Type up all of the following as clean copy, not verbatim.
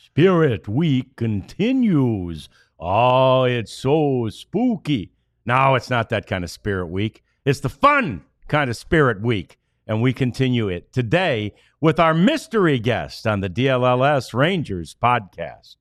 Spirit Week continues. Oh, it's so spooky. No, it's not that kind of Spirit Week. It's the fun kind of Spirit Week. And we continue it today with our mystery guest on the DLLS Rangers podcast.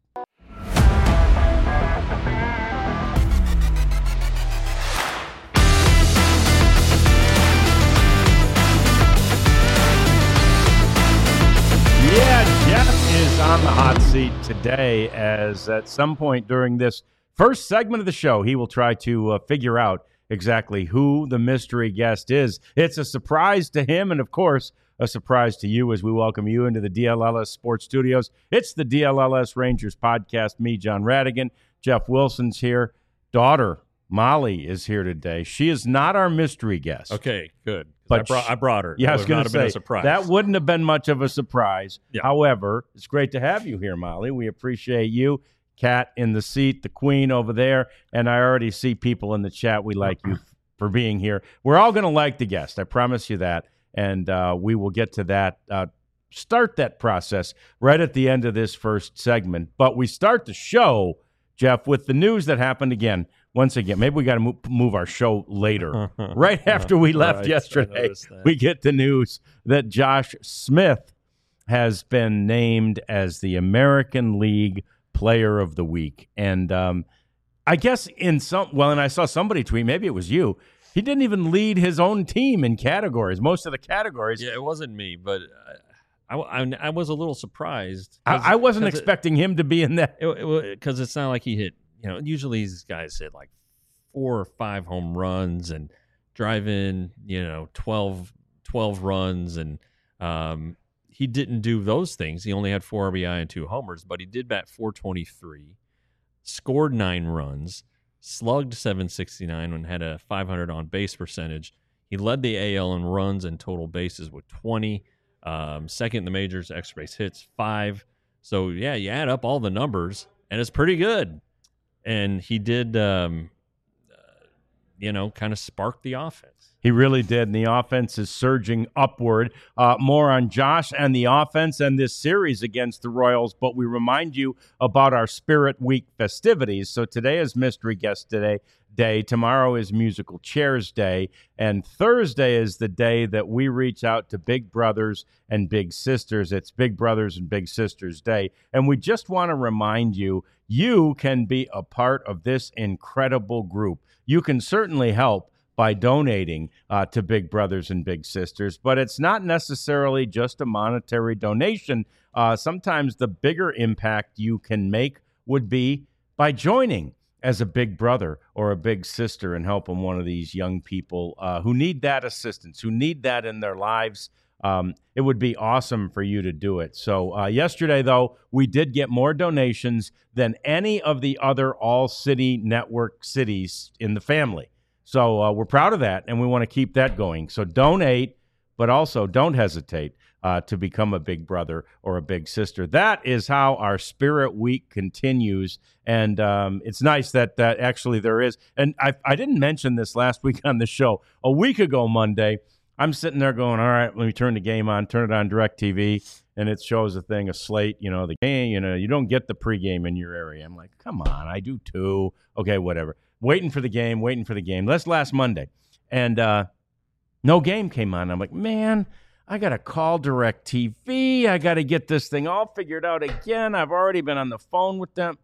Yeah, Jeff is on the hot seat today, as at some point during this first segment of the show, he will try to figure out exactly who the mystery guest is. It's a surprise to him, and of course, a surprise to you as we welcome you into the DLLS Sports Studios. It's the DLLS Rangers podcast. Me, John Radigan. Jeff Wilson's here. Daughter Molly is here today. She is not our mystery guest. Okay, good. But I brought her. Yeah, That I was going to been say, a surprise. that wouldn't have been much of a surprise. Yeah. However, it's great to have you here, Molly. We appreciate you. Kat in the seat, the queen over there, and I already see people in the chat. We like you for being here. We're all going to like the guest. I promise you that, and we will get to that, start that process right at the end of this first segment. But we start the show, Jeff, with the news that happened again. Once again, maybe we got to move our show later. Right after we left yesterday, we get the news that Josh Smith has been named as the American League Player of the Week. And I guess and I saw somebody tweet, maybe it was you, he didn't even lead his own team in categories, most of the categories. Yeah, it wasn't me, but I was a little surprised. I wasn't expecting him to be in that. Because it's not like he hit, usually these guys hit like 4 or 5 home runs and drive in, 12 runs. And he didn't do those things. He only had 4 RBI and 2 homers, but he did bat .423, scored 9 runs, slugged .769 and had a .500 on base percentage. He led the AL in runs and total bases with 20. Second in the majors, extra base hits 5. So, yeah, you add up all the numbers, and it's pretty good. And he did, kind of spark the offense. He really did, and the offense is surging upward. More on Josh and the offense and this series against the Royals, but we remind you about our Spirit Week festivities. So today is Mystery Guest Day. Tomorrow is Musical Chairs Day, and Thursday is the day that we reach out to big brothers and big sisters. It's Big Brothers and Big Sisters Day, and we just want to remind you, you can be a part of this incredible group. You can certainly help by donating to Big Brothers and Big Sisters, but it's not necessarily just a monetary donation. Sometimes the bigger impact you can make would be by joining as a big brother or a big sister and helping one of these young people who need that assistance, who need that in their lives. It would be awesome for you to do it. So yesterday, though, we did get more donations than any of the other all-city network cities in the family. So we're proud of that, and we want to keep that going. So donate, but also don't hesitate to become a big brother or a big sister. That is how our Spirit Week continues, and it's nice that actually there is. And I didn't mention this last week on the show. A week ago Monday, I'm sitting there going, all right, let me turn the game on, turn it on DirecTV, and it shows a slate, the game, you don't get the pregame in your area. I'm like, come on, I do too. Okay, whatever. Waiting for the game. That's last Monday. And no game came on. I'm like, man, I got to call DirecTV. I got to get this thing all figured out again. I've already been on the phone with them.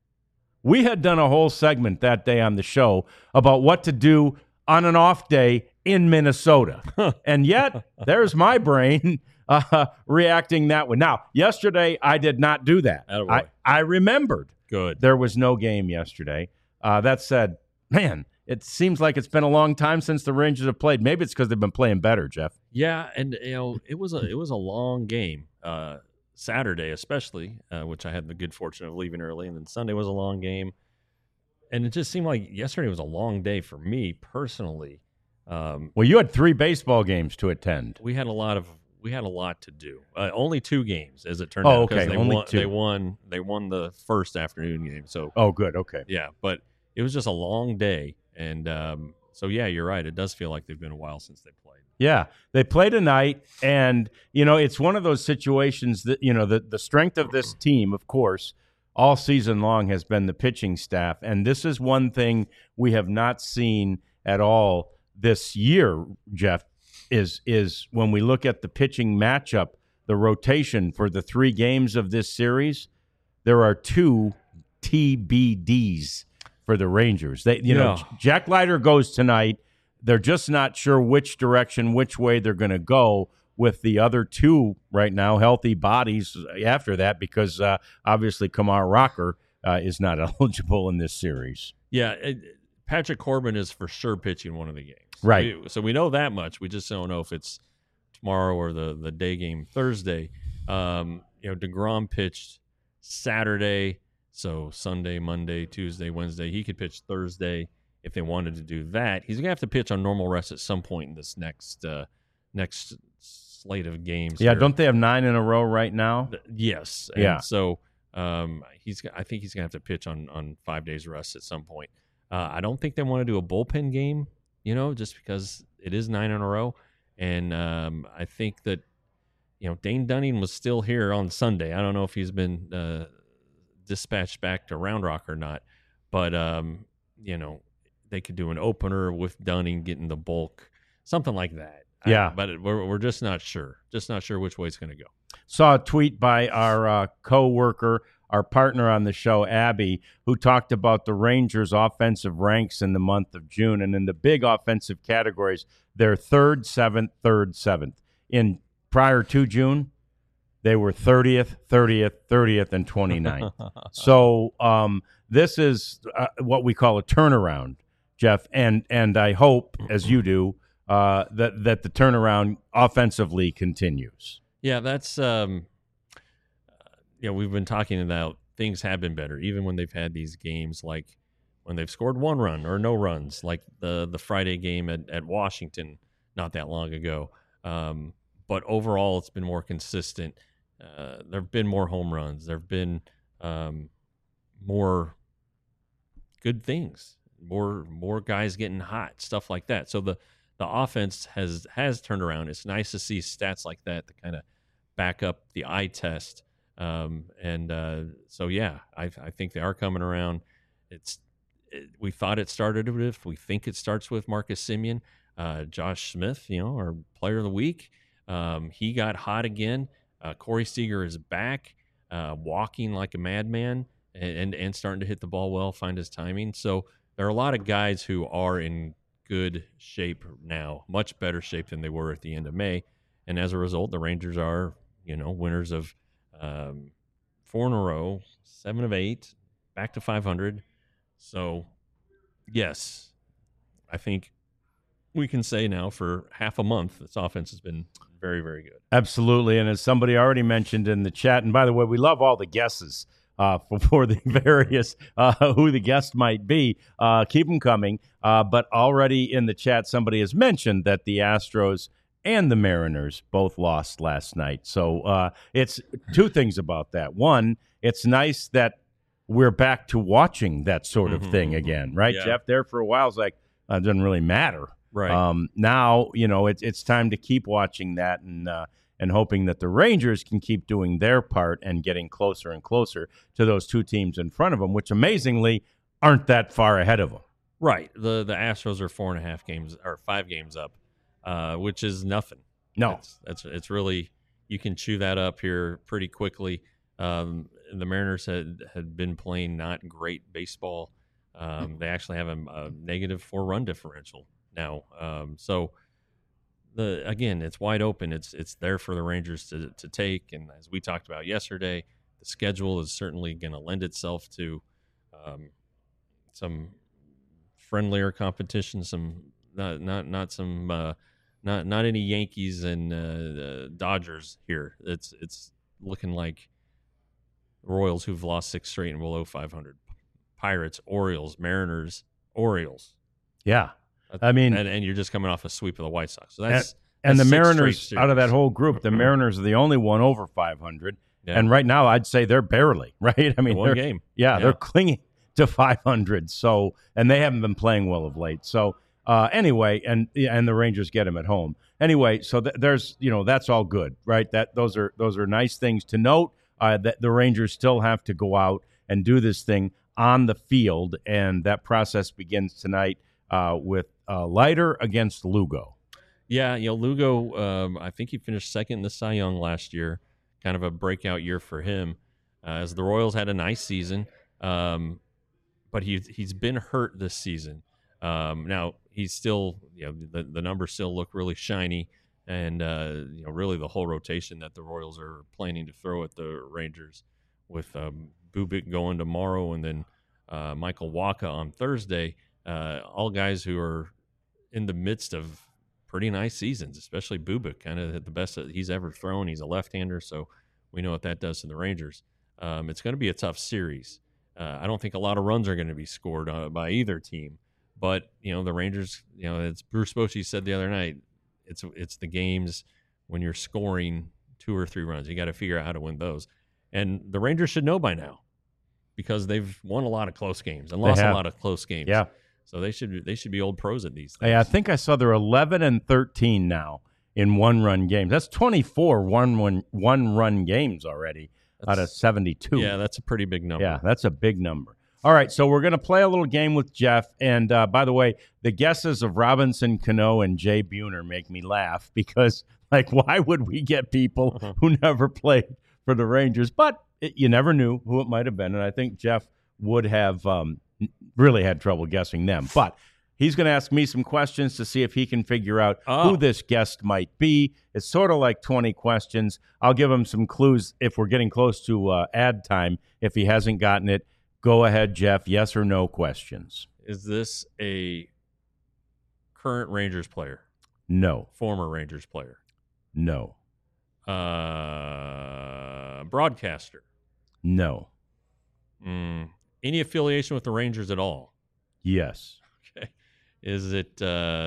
We had done a whole segment that day on the show about what to do on an off day in Minnesota. And yet, there's my brain reacting that way. Now, yesterday, I did not do that. I remembered. Good. There was no game yesterday. That said, man, it seems like it's been a long time since the Rangers have played. Maybe it's because they've been playing better, Jeff. Yeah, and it was a long game. Saturday especially, which I had the good fortune of leaving early, and then Sunday was a long game. And it just seemed like yesterday was a long day for me personally. Well, you had 3 baseball games to attend. We had a lot to do. Only 2 games, as it turned out. Oh, okay. Only 2. They won the first afternoon game. So. Oh, good. Okay. Yeah, but it was just a long day, and so yeah, you're right. It does feel like they've been a while since they played. Yeah, they play tonight, and it's one of those situations that the strength of this team, of course, all season long has been the pitching staff, and this is one thing we have not seen at all this year, Jeff. Is when we look at the pitching matchup, the rotation for the 3 games of this series, there are 2 TBDs for the Rangers. Jack Leiter goes tonight. They're just not sure which direction, which way they're going to go with the other 2 right now, healthy bodies after that, because obviously Kumar Rocker is not eligible in this series. Yeah, Patrick Corbin is for sure pitching one of the games. Right. So we know that much. We just don't know if it's tomorrow or the day game Thursday. DeGrom pitched Saturday, so Sunday, Monday, Tuesday, Wednesday. He could pitch Thursday. If they wanted to do that, he's gonna have to pitch on normal rest at some point in this next slate of games. Yeah, here. Don't they have 9 in a row right now? Yes. Yeah. So I think he's gonna have to pitch on 5 days rest at some point. I don't think they want to do a bullpen game, just because it is 9 in a row, and I think that Dane Dunning was still here on Sunday. I don't know if he's been dispatched back to Round Rock or not, but they could do an opener with Dunning getting the bulk, something like that. Yeah. But we're just not sure. Just not sure which way it's going to go. Saw a tweet by our co-worker, our partner on the show, Abby, who talked about the Rangers' offensive ranks in the month of June. And in the big offensive categories, they're 3rd, 7th, 3rd, 7th. In prior to June, they were 30th, 30th, 30th, and 29th. So this is what we call a turnaround, Jeff, and I hope, as you do, that the turnaround offensively continues. Yeah, that's we've been talking about things have been better, even when they've had these games, like when they've scored 1 run or no runs, like the Friday game at Washington not that long ago. But overall, it's been more consistent. There have been more home runs. There have been more good things. More guys getting hot, stuff like that. So the offense has turned around. It's nice to see stats like that to kind of back up the eye test. So yeah, I think they are coming around. We thought it started with. We think it starts with Marcus Semien, Josh Smith. Our player of the week. He got hot again. Corey Seager is back, walking like a madman, and starting to hit the ball well, find his timing. So there are a lot of guys who are in good shape now, much better shape than they were at the end of May. And as a result, the Rangers are, winners of 4 in a row, 7 of 8, back to 500. So, yes, I think we can say now for half a month, this offense has been very, very good. Absolutely. And as somebody already mentioned in the chat, and by the way, we love all the guesses for the various who the guest might be. Keep them coming. But already in the chat, somebody has mentioned that the Astros and the Mariners both lost last night. So it's 2 things about that. One, it's nice that we're back to watching that sort of thing again, right, Yeah. Jeff? There for a while, it's like, it doesn't really matter. Right. Now, it's time to keep watching that and hoping that the Rangers can keep doing their part and getting closer and closer to those 2 teams in front of them, which amazingly aren't that far ahead of them. Right. The Astros are 4.5 games or 5 games up, which is nothing. No. It's really, you can chew that up here pretty quickly. The Mariners had been playing not great baseball. They actually have a negative 4-run differential now. So again, it's wide open. It's there for the Rangers to take. And as we talked about yesterday, the schedule is certainly going to lend itself to some friendlier competition. Some not any Yankees and Dodgers here. It's looking like Royals, who've lost 6 straight and below 500. Pirates, Orioles, Mariners, Orioles. Yeah. I mean, and you're just coming off a sweep of the White Sox. So that's the 6 Mariners, straight out of that series. whole group, the Mariners are the only one over 500. Yeah. And right now, I'd say they're barely, right? I mean, One game. Yeah, they're clinging to 500. So, and they haven't been playing well of late. So, anyway, and the Rangers get them at home. anyway, so there's that's all good, right? Those are nice things to note. That the Rangers still have to go out and do this thing on the field, and that process begins tonight with Leiter against Lugo. Yeah, Lugo, I think he finished second in the Cy Young last year. Kind of a breakout year for him, as the Royals had a nice season, but he's been hurt this season. Now he's still, the numbers still look really shiny, and really the whole rotation that the Royals are planning to throw at the Rangers, with Bubic going tomorrow, and then Michael Wacha on Thursday. All guys who are in the midst of pretty nice seasons, especially Bubic, kind of the best that he's ever thrown. He's a left-hander, so we know what that does to the Rangers. It's going to be a tough series. I don't think a lot of runs are going to be scored by either team, but the Rangers, as Bruce Bochy said the other night, it's the games when you're scoring 2 or 3 runs. You got to figure out how to win those, and the Rangers should know by now, because they've won a lot of close games and lost a lot of close games. Yeah. So they should be old pros at these things. I think I saw they're 11-13 now in one-run games. That's 24 one-run games already out of 72. Yeah, that's a pretty big number. Yeah, that's a big number. All right, so we're going to play a little game with Jeff. And by the way, the guesses of Robinson Cano and Jay Buhner make me laugh, because, why would we get people who never played for the Rangers? But you never knew who it might have been, and I think Jeff would have really had trouble guessing them. But he's going to ask me some questions to see if he can figure out who this guest might be. It's sort of like 20 questions. I'll give him some clues if we're getting close to ad time. If he hasn't gotten it, go ahead, Jeff. Yes or no questions. Is this a current Rangers player? No. Former Rangers player? No. Broadcaster? No. Any affiliation with the Rangers at all? Yes. Okay. Is it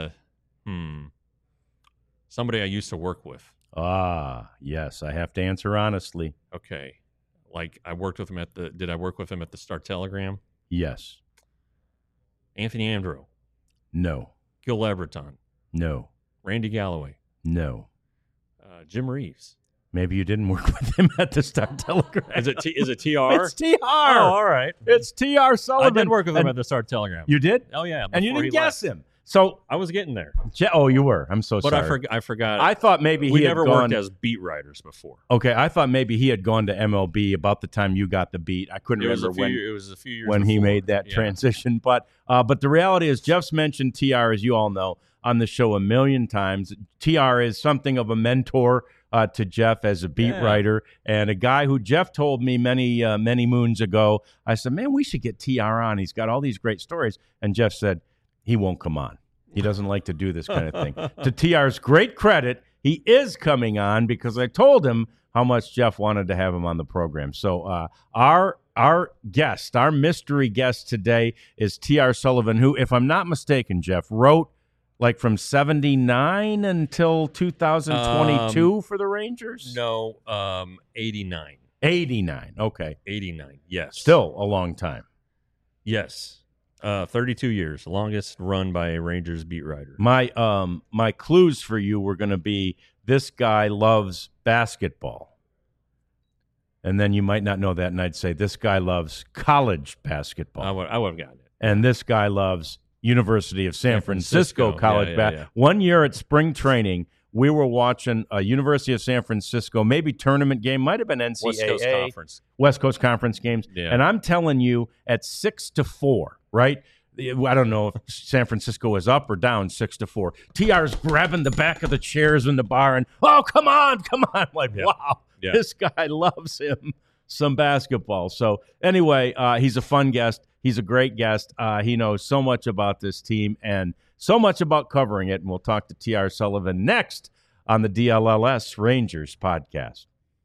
somebody I used to work with? Yes. I have to answer honestly. Okay. I worked with him did I work with him at the Star-Telegram? Yes. Anthony Andro? No. Gil Everton? No. Randy Galloway? No. Jim Reeves? Maybe you didn't work with him at the Star-Telegram. Is it TR? It's TR. Oh, all right. It's TR Sullivan. I did work with him at the Star-Telegram. You did? Oh, yeah. And you didn't he guess left. him. So I was getting there. Oh, you were. I'm so but sorry. I forgot. I thought maybe we he had never gone, worked as beat writers before. Okay, I thought maybe he had gone to MLB about the time you got the beat. I couldn't remember when. It was a few years when he before. made that transition. But the reality is, Jeff's mentioned TR, as you all know, on the show a million times. TR is something of a mentor to Jeff as a beat writer, and a guy who Jeff told me many moons ago. I said, man, we should get TR on. He's got all these great stories. And Jeff said, he won't come on. He doesn't like to do this kind of thing. To TR's great credit, he is coming on, because I told him how much Jeff wanted to have him on the program. So our guest, our mystery guest today is TR Sullivan, who, if I'm not mistaken, Jeff, wrote from 79 until 2022 for the Rangers? No, 89. 89, okay. 89, yes. Still a long time. Yes. 32 years, longest run by a Rangers beat writer. My clues for you were going to be, this guy loves basketball. And then you might not know that, and I'd say, this guy loves college basketball. I would have gotten it. And this guy loves University of San Francisco college basketball. Yeah. One year at spring training, we were watching a University of San Francisco, maybe tournament game, might have been NCAA. West Coast Conference games. Yeah. And I'm telling you, at 6-4, right? I don't know if San Francisco is up or down 6-4. TR's grabbing the back of the chairs in the bar and, oh, come on. Wow, this guy loves him some basketball. So anyway, he's a fun guest. He's a great guest. He knows so much about this team and so much about covering it. And we'll talk to TR Sullivan next on the DLLS Rangers podcast.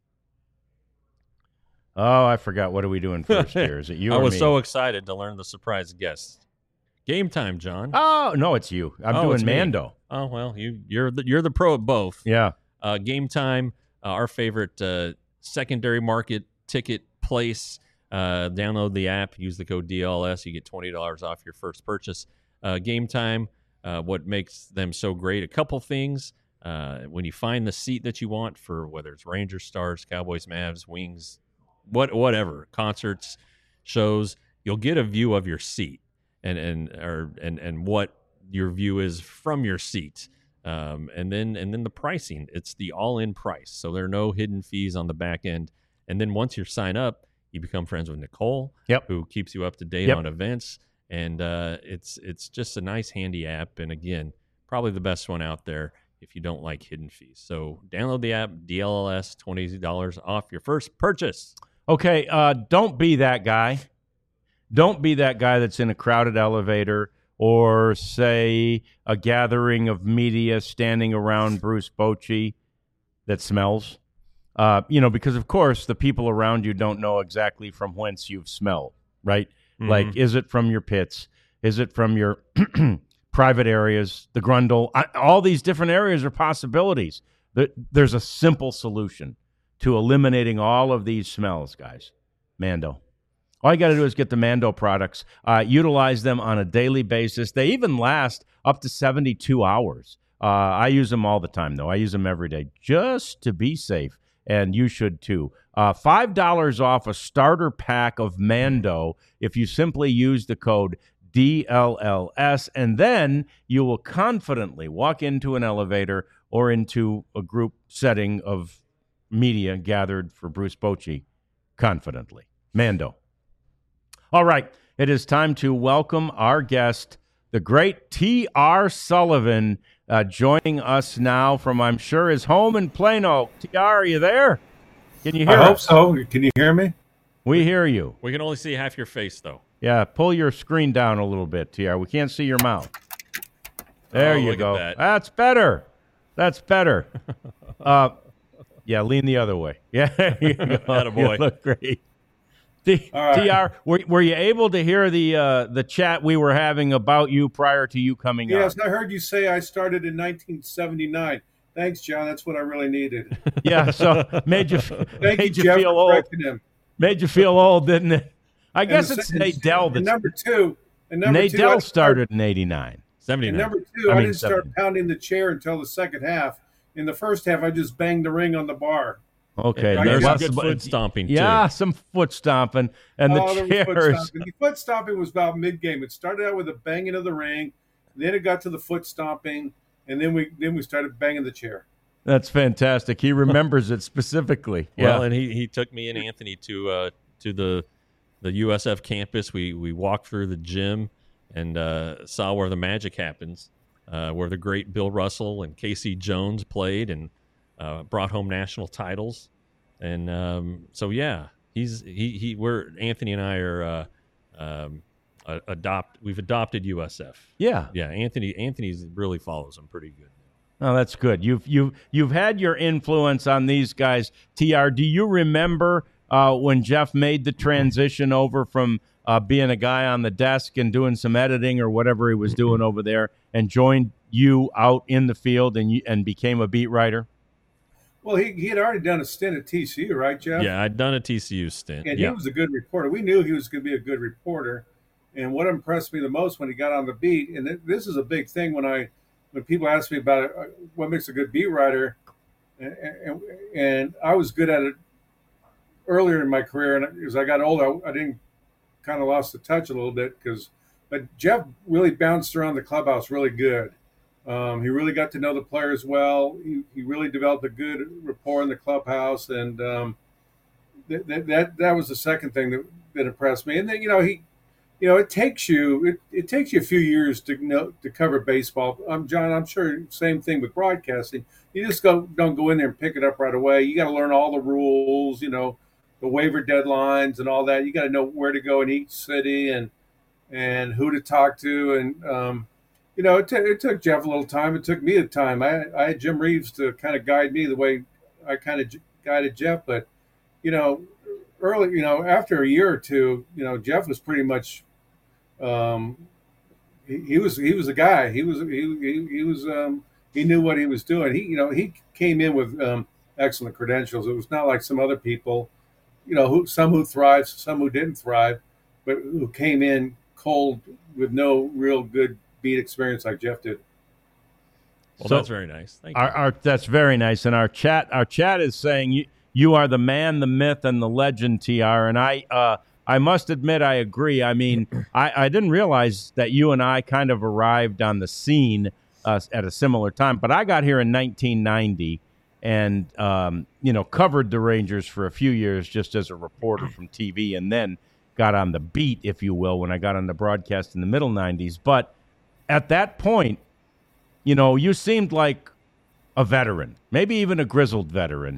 Oh, I forgot. What are we doing first here? Is it you or me? I was so excited to learn the surprise guest. Game time, John. Oh, no, it's you. I'm doing Mando. Me. Oh, well, you're the pro at both. Yeah. Game time, our favorite secondary market ticket place. Download the app, use the code DLS. You get $20 off your first purchase. Game time, what makes them so great? A couple things. When you find the seat that you want for whether it's Rangers, Stars, Cowboys, Mavs, Wings, whatever, concerts, shows, you'll get a view of your seat and what your view is from your seat. And then the pricing, it's the all-in price. So there are no hidden fees on the back end. And then once you sign up, you become friends with Nicole, who keeps you up to date on events. And it's just a nice, handy app. And again, probably the best one out there if you don't like hidden fees. So download the app, DLLS, $20 off your first purchase. Okay, don't be that guy. Don't be that guy that's in a crowded elevator or, say, a gathering of media standing around Bruce Bochy that smells. Because, of course, the people around you don't know exactly from whence you've smelled, right? Mm-hmm. Like, is it from your pits? Is it from your private areas, the grundle? All these different areas are possibilities. There's a simple solution to eliminating all of these smells, guys. Mando. All you got to do is get the Mando products. Utilize them on a daily basis. They even last up to 72 hours. I use them all the time, though. I use them every day just to be safe, and you should too. $5 off a starter pack of Mando if you simply use the code DLLS, and then you will confidently walk into an elevator or into a group setting of media gathered for Bruce Bochy confidently. Mando. All right, it is time to welcome our guest, the great T.R. Sullivan, joining us now from, I'm sure, his home in Plano. T.R., are you there? Can you hear us? I hope so. Can you hear me? We hear you. We can only see half your face, though. Yeah, pull your screen down a little bit, T.R. We can't see your mouth. There you go. That's better. That's better. Yeah, lean the other way. Yeah, there you go. Attaboy. You look great. TR, were you able to hear the chat we were having about you prior to you coming on? Yes, I heard you say I started in 1979. Thanks, John. That's what I really needed. Yeah, so made you Jeff, feel old. him. Made you feel old, didn't it? I guess it's Nate Dell. Number two. Nate Dell started in 89. 79. And number two, I didn't start pounding the chair until the second half. In the first half, I just banged the ring on the bar. Okay, there's some good foot stomping, too. Yeah, some foot stomping. And the chairs. The foot stomping was about mid-game. It started out with a banging of the ring. Then it got to the foot stomping. And then we started banging the chair. That's fantastic. He remembers it specifically. Well, and he took me and Anthony to the USF campus. We walked through the gym and saw where the magic happens, where the great Bill Russell and Casey Jones played and brought home national titles. And so yeah, we're Anthony and I are we've adopted USF. Yeah. Anthony's really follows them pretty good. Oh, that's good. You've had your influence on these guys. TR, do you remember when Jeff made the transition over from being a guy on the desk and doing some editing or whatever he was doing over there and joined you out in the field and became a beat writer? Well, he had already done a stint at TCU, right, Jeff? Yeah, I'd done a TCU stint. And he was a good reporter. We knew he was going to be a good reporter. And what impressed me the most when he got on the beat, and this is a big thing when people ask me about what makes a good beat writer, and I was good at it earlier in my career, and as I got older, I didn't kind of lost the touch a little bit but Jeff really bounced around the clubhouse really good. He really got to know the players well. He really developed a good rapport in the clubhouse, and that was the second thing that impressed me. And then it takes you a few years to cover baseball. John, I'm sure same thing with broadcasting. You just don't go in there and pick it up right away. You got to learn all the rules, the waiver deadlines and all that. You got to know where to go in each city and who to talk to. And it took Jeff a little time. It took me a time. I had Jim Reeves to kind of guide me the way I kind of guided Jeff. But early, after a year or two, Jeff was pretty much. He was a guy. He knew what he was doing. He came in with excellent credentials. It was not like some other people, some who thrived, some who didn't thrive, but who came in cold with no real good beat experience like Jeff did. Well, So that's very nice. Thank you. that's very nice. And our chat is saying you are the man, the myth, and the legend, TR. And I must admit I agree. I mean, I didn't realize that you and I kind of arrived on the scene at a similar time, but I got here in 1990 and covered the Rangers for a few years just as a reporter from TV, and then got on the beat, if you will, when I got on the broadcast in the middle 90s. But at that point, you seemed like a veteran, maybe even a grizzled veteran.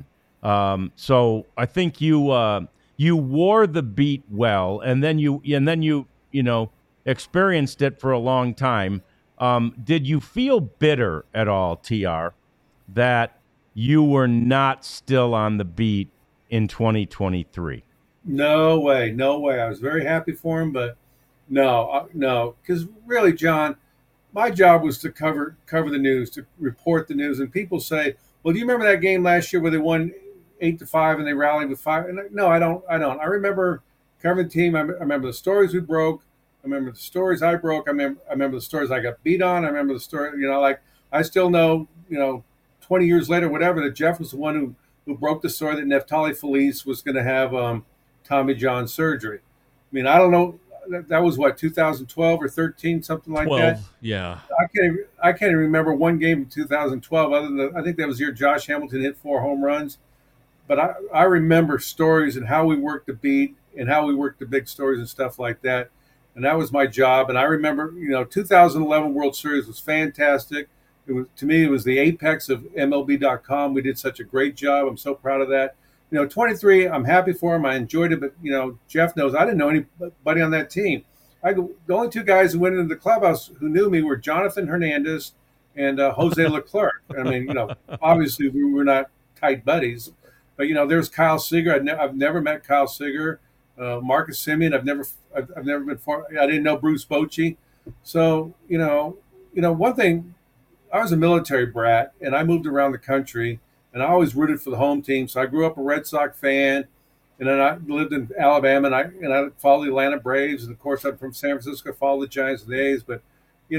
So I think you wore the beat well, and then you experienced it for a long time. Did you feel bitter at all, TR, that you were not still on the beat in 2023? No way, no way. I was very happy for him, but no, because really, John, my job was to cover the news, to report the news. And people say, "Well, do you remember that game last year where they won 8-5 and they rallied with 5?" And no, I don't. I remember covering the team. I remember the stories we broke. I remember the stories I broke. I remember the stories I got beat on. I remember the story. Like I still know. 20 years later, whatever, that Jeff was the one who broke the story that Neftali Felice was going to have Tommy John surgery. I mean, I don't know. That was what, 2012 or 13, something like 12, that. Yeah. I can't even remember one game in 2012 other than I think that was the year Josh Hamilton hit 4 home runs. But I remember stories and how we worked the beat and how we worked the big stories and stuff like that. And that was my job. And I remember, 2011 World Series was fantastic. To me, it was the apex of MLB.com. We did such a great job. I'm so proud of that. 23, I'm happy for him. I enjoyed it, but Jeff knows I didn't know anybody on that team. The only 2 guys who went into the clubhouse who knew me were Jonathan Hernandez and Jose Leclerc. I mean, obviously we were not tight buddies, but there's Kyle Seager. I've never met Kyle Seager. Marcus Semien. I've never been I didn't know Bruce Bochy. So one thing. I was a military brat, and I moved around the country, and I always rooted for the home team. So I grew up a Red Sox fan, and then I lived in Alabama, and I followed the Atlanta Braves, and of course I'm from San Francisco, followed the Giants and the A's. But when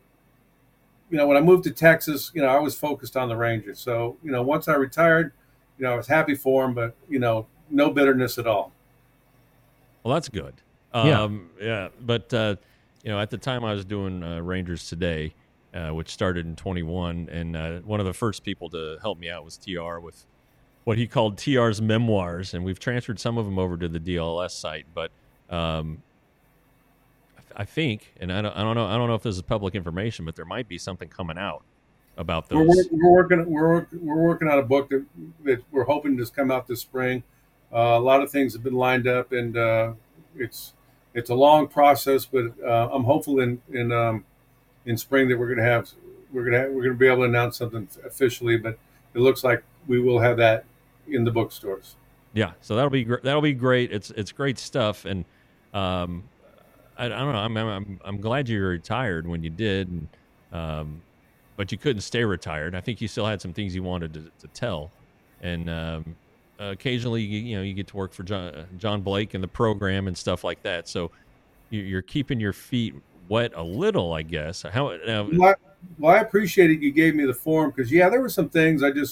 I moved to Texas, I was focused on the Rangers. So once I retired, I was happy for them, but no bitterness at all. Well, that's good. Yeah. But at the time I was doing Rangers Today, which started in 21, and one of the first people to help me out was TR with what he called TR's memoirs, and we've transferred some of them over to the DLS site. But I think, and I don't know if this is public information, but there might be something coming out about those. We're working on a book that we're hoping to come out this spring. A lot of things have been lined up, and it's a long process, but I'm hopeful in spring that we're going to be able to announce something officially, but it looks like we will have that in the bookstores. Yeah, so that'll be great. It's great stuff, and I don't know. I'm glad you retired when you did, and, but you couldn't stay retired. I think you still had some things you wanted to tell, and occasionally you get to work for John Blake and the program and stuff like that. So you're keeping your feet wet a little, I guess. Well, I appreciate it. You gave me the forum because there were some things I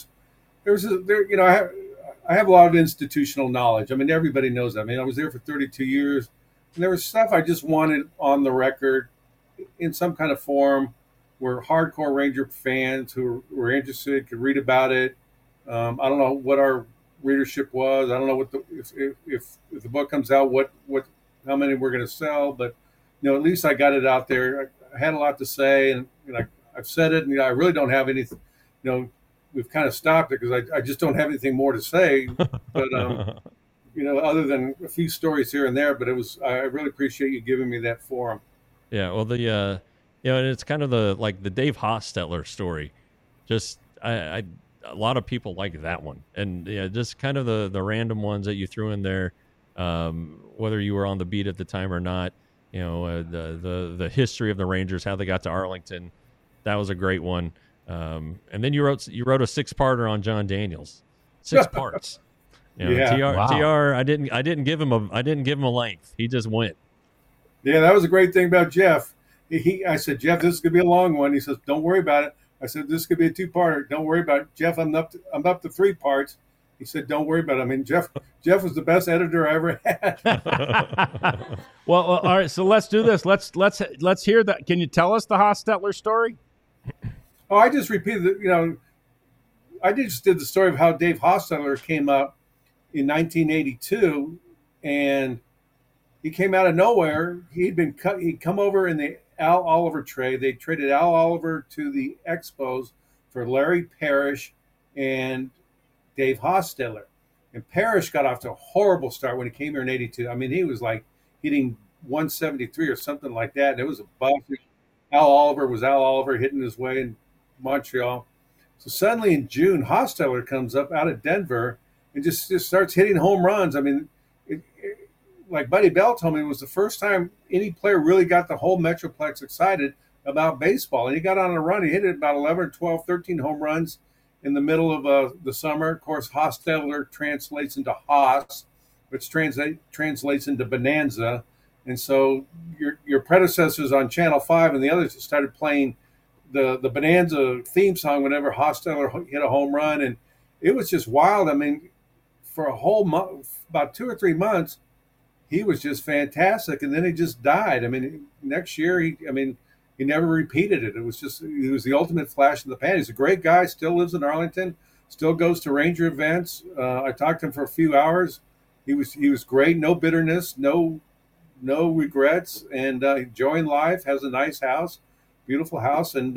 have a lot of institutional knowledge. I mean, everybody knows that. I mean, I was there for 32 years, and there was stuff I just wanted on the record in some kind of forum where hardcore Ranger fans who were interested could read about it. I don't know what our readership was. I don't know if the book comes out, how many we're going to sell, but at least I got it out there. I had a lot to say, and I've said it, and I really don't have anything. We've kind of stopped it because I just don't have anything more to say. But other than a few stories here and there. But I really appreciate you giving me that forum. Yeah, well, and it's kind of the Dave Hostetler story. Just a lot of people like that one, and just kind of the random ones that you threw in there, whether you were on the beat at the time or not. The history of the Rangers, how they got to Arlington. That was a great one. And then you wrote a 6-parter on John Daniels, 6 parts. TR, I didn't give him a length. He just went. Yeah, that was a great thing about Jeff. I said, Jeff, this is gonna be a long one. He says, don't worry about it. I said, this could be a two-parter. Don't worry about it. Jeff, I'm up to 3 parts. He said, don't worry about it. I mean, Jeff was the best editor I ever had. Well, all right. So let's do this. Let's hear that. Can you tell us the Hostetler story? Oh, I just repeated it. I just did the story of how Dave Hostetler came up in 1982, and he came out of nowhere. He'd come over in the Al Oliver trade. They traded Al Oliver to the Expos for Larry Parrish and Dave Hostetler. And Parrish got off to a horrible start when he came here in 82. I mean, he was like hitting 173 or something like that. And it was a buff. Al Oliver was Al Oliver hitting his way in Montreal. So suddenly in June, Hostetler comes up out of Denver and just starts hitting home runs. I mean, like Buddy Bell told me, it was the first time any player really got the whole Metroplex excited about baseball. And he got on a run. He hit about 11, 12, 13 home runs in the middle of the summer. Of course, Hostetler translates into Hoss, which translates into Bonanza. And so your predecessors on Channel 5 and the others started playing the Bonanza theme song whenever Hostetler hit a home run. And it was just wild. I mean, for a whole month, about 2 or 3 months, he was just fantastic. And then he just died. I mean, next year, he never repeated it. He was the ultimate flash in the pan. He's a great guy, still lives in Arlington, still goes to Ranger events. I talked to him for a few hours. He was great, no bitterness, no regrets, and enjoying life, has a nice house, beautiful house. And,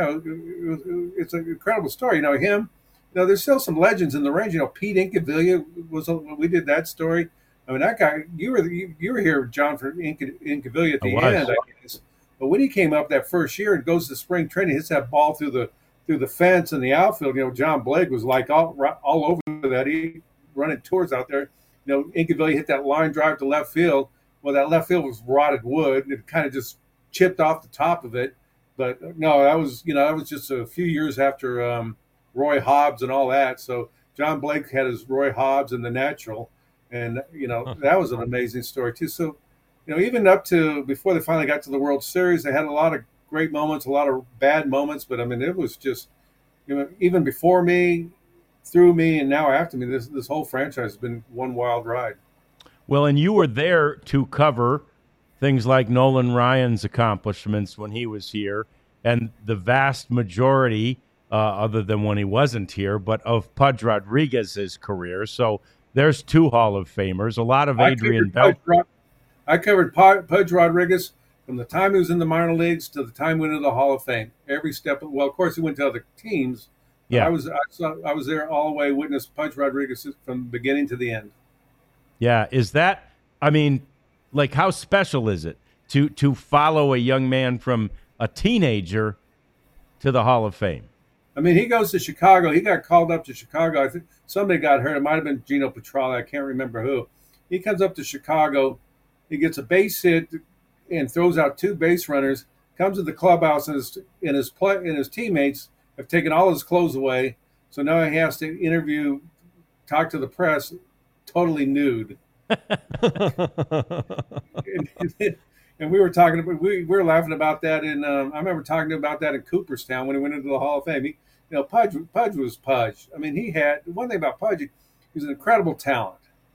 it's an incredible story. There's still some legends in the range. Pete Incaviglia we did that story. I mean, that guy, you were here, John, for Incaviglia at the end, I guess. But when he came up that first year and goes to spring training, hits that ball through the fence in the outfield. John Blake was like all over that. He running tours out there. Incaviglia hit that line drive to left field. Well, that left field was rotted wood. It kind of just chipped off the top of it. But no, that was just a few years after Roy Hobbs and all that. So John Blake had his Roy Hobbs in the natural, and that was an amazing story too. So. Even up to before they finally got to the World Series, they had a lot of great moments, a lot of bad moments. But I mean, it was just, even before me, through me, and now after me, this whole franchise has been one wild ride. Well, and you were there to cover things like Nolan Ryan's accomplishments when he was here, and the vast majority, other than when he wasn't here, but of Pudge Rodriguez's career. So there's 2 Hall of Famers, a lot of Adrian Bell. I covered Pudge Rodriguez from the time he was in the minor leagues to the time he went into the Hall of Fame. Every step. Well, of course, he went to other teams. Yeah, I was there all the way, witnessed Pudge Rodriguez from the beginning to the end. Yeah, is that? I mean, like, how special is it to follow a young man from a teenager to the Hall of Fame? I mean, he goes to Chicago. He got called up to Chicago. I think somebody got hurt. It might have been Gino Petralli. I can't remember who. He comes up to Chicago. He gets a base hit and throws out 2 base runners. Comes to the clubhouse and his teammates have taken all his clothes away. So now he has to talk to the press, totally nude. And we were talking about we were laughing about that. And I remember talking about that in Cooperstown when he went into the Hall of Fame. Pudge was Pudge. I mean, he had one thing about Pudge. He was an incredible talent.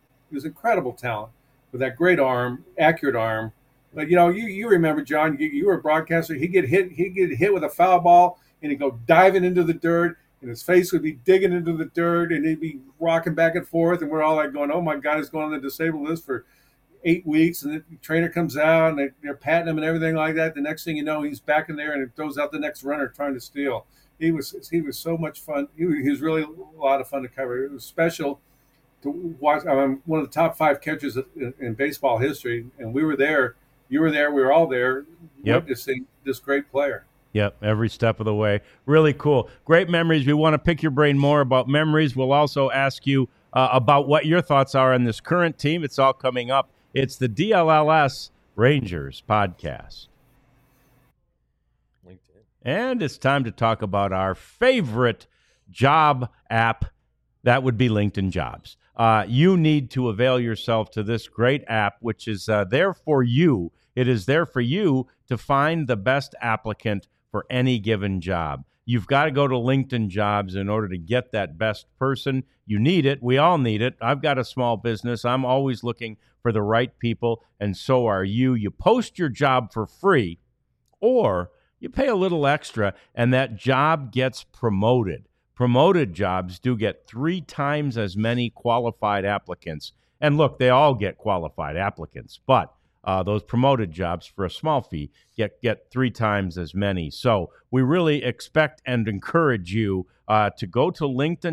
With that great arm, accurate arm. But you remember, John, you were a broadcaster. He'd get hit with a foul ball, and he'd go diving into the dirt, and his face would be digging into the dirt, and he'd be rocking back and forth, and we're all like going, "Oh my God, he's going on the disabled list for 8 weeks." And the trainer comes out, and they're patting him and everything like that. The next thing you know, he's back in there, and it throws out the next runner trying to steal. He was so much fun. He was really a lot of fun to cover. It was special to watch. I'm one of the top 5 catchers in baseball history, and we were there. You were there. We were all there, witnessing this great player. Yep, every step of the way. Really cool. Great memories. We want to pick your brain more about memories. We'll also ask you about what your thoughts are on this current team. It's all coming up. It's the DLLS Rangers podcast. LinkedIn. And it's time to talk about our favorite job app. That would be LinkedIn Jobs. You need to avail yourself to this great app, which is there for you. It is there for you to find the best applicant for any given job. You've got to go to LinkedIn Jobs in order to get that best person. You need it. We all need it. I've got a small business. I'm always looking for the right people, and so are you. You post your job for free, or you pay a little extra, and that job gets promoted. Promoted jobs do get 3 times as many qualified applicants. And look, they all get qualified applicants, but those promoted jobs for a small fee get 3 times as many. So we really expect and encourage you to go to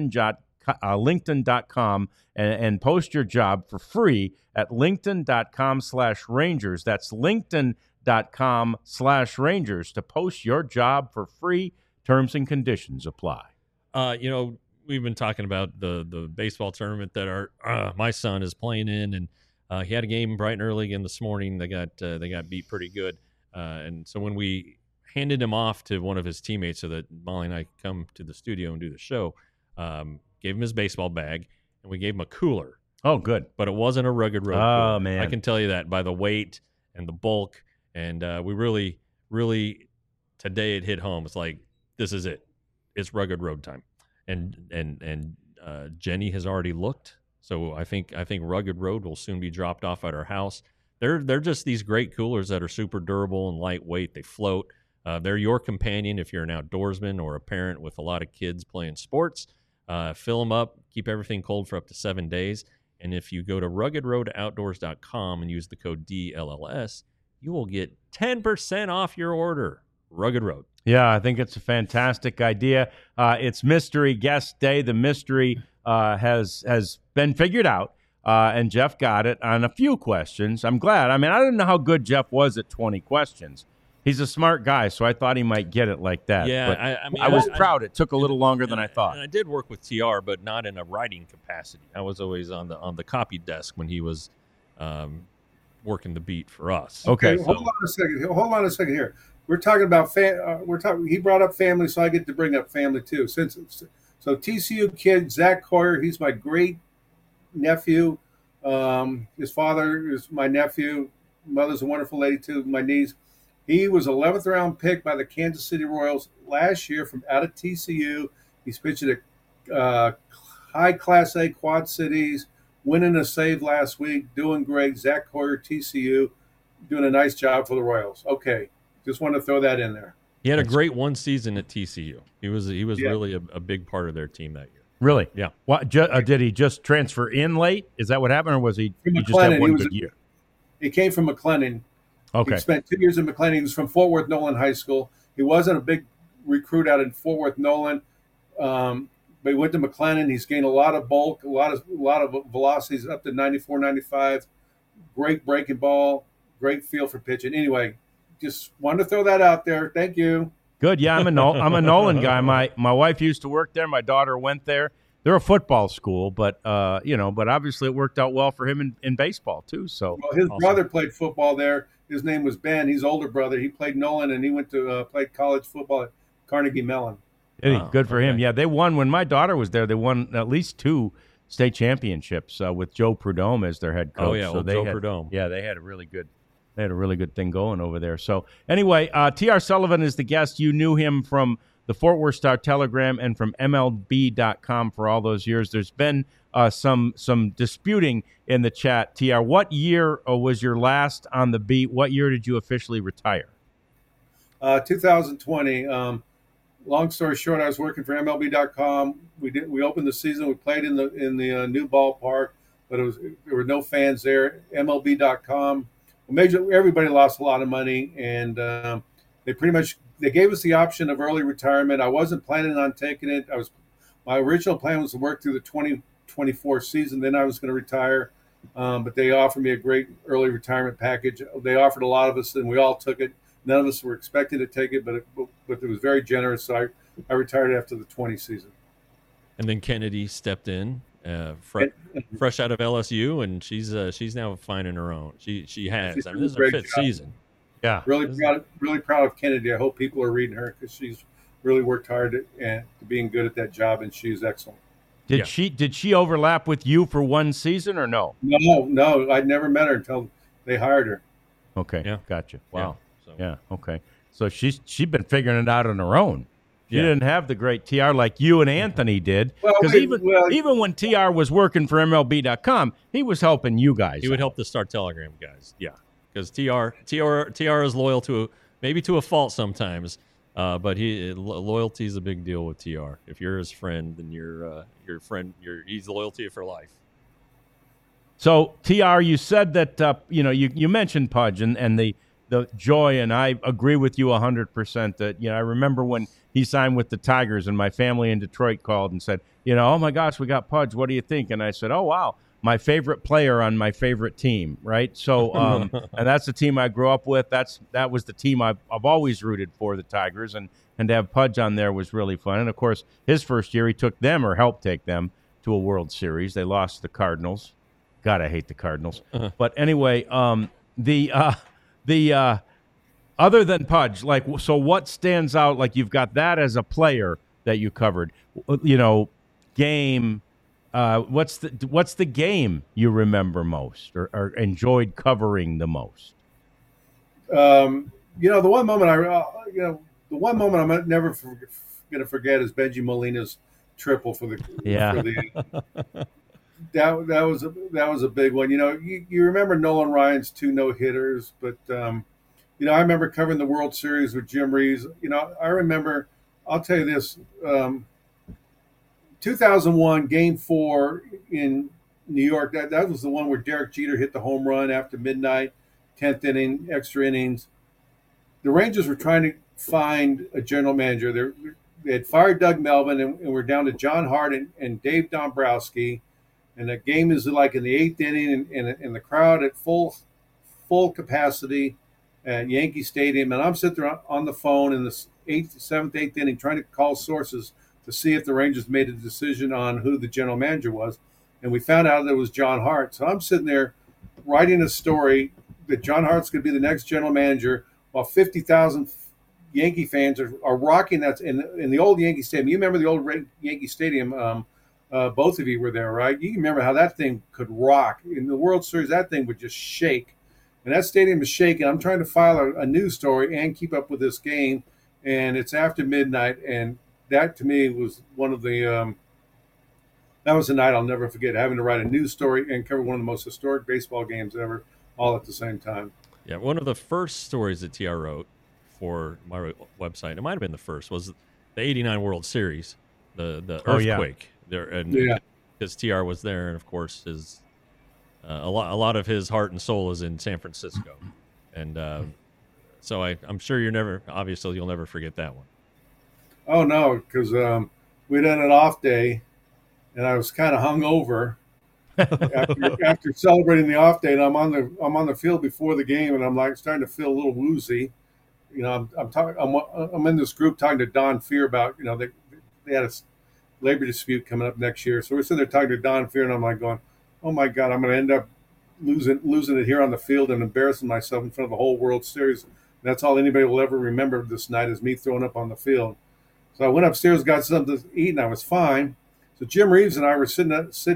LinkedIn.com and post your job for free at LinkedIn.com/Rangers. That's LinkedIn.com/Rangers to post your job for free. Terms and conditions apply. We've been talking about the baseball tournament that my son is playing in, and he had a game bright and early again this morning. They got beat pretty good, and so when we handed him off to one of his teammates so that Molly and I could come to the studio and do the show, gave him his baseball bag, and we gave him a cooler. Oh, good. But it wasn't a Rugged Road cooler. Man. I can tell you that by the weight and the bulk, and we really, really, today it hit home. It's like, this is it. It's Rugged Road time. And Jenny has already looked, so I think Rugged Road will soon be dropped off at our house. They're just these great coolers that are super durable and lightweight. They float. They're your companion if you're an outdoorsman or a parent with a lot of kids playing sports. Fill them up, keep everything cold for up to 7 days. And if you go to ruggedroadoutdoors.com and use the code DLLS, you will get 10% off your order. Rugged Road. Yeah, I think it's a fantastic idea. It's Mystery Guest Day. The mystery has been figured out, and Jeff got it on a few questions. I'm glad. I mean, I didn't know how good Jeff was at 20 questions. He's a smart guy, so I thought he might get it like that. Yeah, but I was proud. It took a little longer than I thought. And I did work with TR, but not in a writing capacity. I was always on the copy desk when he was working the beat for us. Okay, hold on a second here. We're talking about he brought up family, so I get to bring up family too. So TCU kid Zach Coyer, he's my great nephew. His father is my nephew. Mother's a wonderful lady too. My niece. He was 11th round pick by the Kansas City Royals last year from out of TCU. He's pitched at high Class A Quad Cities, winning a save last week, doing great. Zach Coyer, TCU, doing a nice job for the Royals. Okay. Just want to throw that in there. He had a great one season at TCU. He was really a big part of their team that year. Really? Yeah. What, did he just transfer in late? Is that what happened, or was he just had one good year? He came from McLennan. Okay. He spent 2 years in McLennan. He was from Fort Worth Nolan High School. He wasn't a big recruit out in Fort Worth Nolan, but he went to McLennan. He's gained a lot of bulk, a lot of velocities, up to 94, 95. Great breaking ball, great feel for pitching. Anyway, just wanted to throw that out there. Thank you. Good. Yeah, I'm a Nolan guy. My wife used to work there. My daughter went there. They're a football school, but obviously it worked out well for him in baseball too. So his brother played football there. His name was Ben. He's older brother. He played Nolan, and he went to played college football at Carnegie Mellon. Good for him. Yeah, they won when my daughter was there. They won at least 2 state championships with Joe Prudhomme as their head coach. Oh yeah, so Joe Prudhomme. Yeah, they had a really good thing going over there. So anyway, T.R. Sullivan is the guest. You knew him from the Fort Worth Star-Telegram and from MLB.com for all those years. There's been some disputing in the chat. TR, what year was your last on the beat? What year did you officially retire? 2020. Long story short, I was working for MLB.com. We opened the season. We played in the new ballpark, but there were no fans there. MLB.com. Everybody lost a lot of money, and they gave us the option of early retirement. I wasn't planning on taking it. My original plan was to work through the 2024 season. Then I was going to retire, but they offered me a great early retirement package. They offered a lot of us, and we all took it. None of us were expecting to take it, but it was very generous. So I retired after the 20 season. And then Kennedy stepped in. Fresh out of LSU, and she's now finding her own. She has. I mean, this is her 5th season. Yeah, really proud of Kennedy. I hope people are reading her because she's really worked hard to being good at that job, and she's excellent. Did she overlap with you for one season or no? No, I'd never met her until they hired her. Okay, yeah, gotcha. Wow. Yeah, yeah, okay. So she's been figuring it out on her own. She didn't have the great TR like you and Anthony did. Well, Because we- even when TR was working for MLB.com, he was helping you guys. He would help the Star Telegram guys. Yeah, because TR is loyal to maybe to a fault sometimes, but loyalty is a big deal with TR. If you're his friend, then your friend. He's loyal to you for life. So, TR, you said that, you mentioned Pudge and the joy, and I agree with you 100% that, I remember when he signed with the Tigers and my family in Detroit called and said, oh, my gosh, we got Pudge. What do you think? And I said, oh, wow, my favorite player on my favorite team, right? So, and that's the team I grew up with. That was the team I've always rooted for, the Tigers, and to have Pudge on there was really fun. And, of course, his first year, he took them or helped take them to a World Series. They lost to the Cardinals. God, I hate the Cardinals. But anyway, the other than Pudge, so what stands out? Like, you've got that as a player that you covered. Game. What's the game you remember most or enjoyed covering the most? The one moment I'm never going to forget is Benji Molina's triple for the. That was a big one. You remember Nolan Ryan's 2 no-hitters, but I remember covering the World Series with Jim Reeves. I remember. I'll tell you this: 2001 Game 4 in New York. That was the one where Derek Jeter hit the home run after midnight, 10th inning, extra innings. The Rangers were trying to find a general manager. They had fired Doug Melvin, and we're down to John Hart and Dave Dombrowski. And the game is like in the 8th inning, and the crowd at full capacity at Yankee Stadium. And I'm sitting there on the phone in the 7th, 8th inning trying to call sources to see if the Rangers made a decision on who the general manager was. And we found out that it was John Hart. So I'm sitting there writing a story that John Hart's going to be the next general manager while 50,000 Yankee fans are rocking that in the old Yankee Stadium. You remember the old Yankee Stadium? Both of you were there, right? You remember how that thing could rock. In the World Series, that thing would just shake. And that stadium is shaking. I'm trying to file a news story and keep up with this game. And it's after midnight. And that, to me, was one of the that was a night I'll never forget, having to write a news story and cover one of the most historic baseball games ever, all at the same time. Yeah, one of the first stories that TR wrote for my website, it might have been the first, was the 89 World Series, the earthquake. There, and because TR was there, and of course his a lot of his heart and soul is in San Francisco, and so I'm sure you'll never forget that one. Oh no, because we done an off day, and I was kind of hungover after celebrating the off day, and I'm on the field before the game, and I'm like starting to feel a little woozy. I'm in this group talking to Don Fear about they had a labor dispute coming up next year. So we're sitting there talking to Don Fear, and I'm like going, oh my God, I'm going to end up losing it here on the field and embarrassing myself in front of the whole World Series. And that's all anybody will ever remember this night is me throwing up on the field. So I went upstairs, got something to eat, and I was fine. So Jim Reeves and I were sitting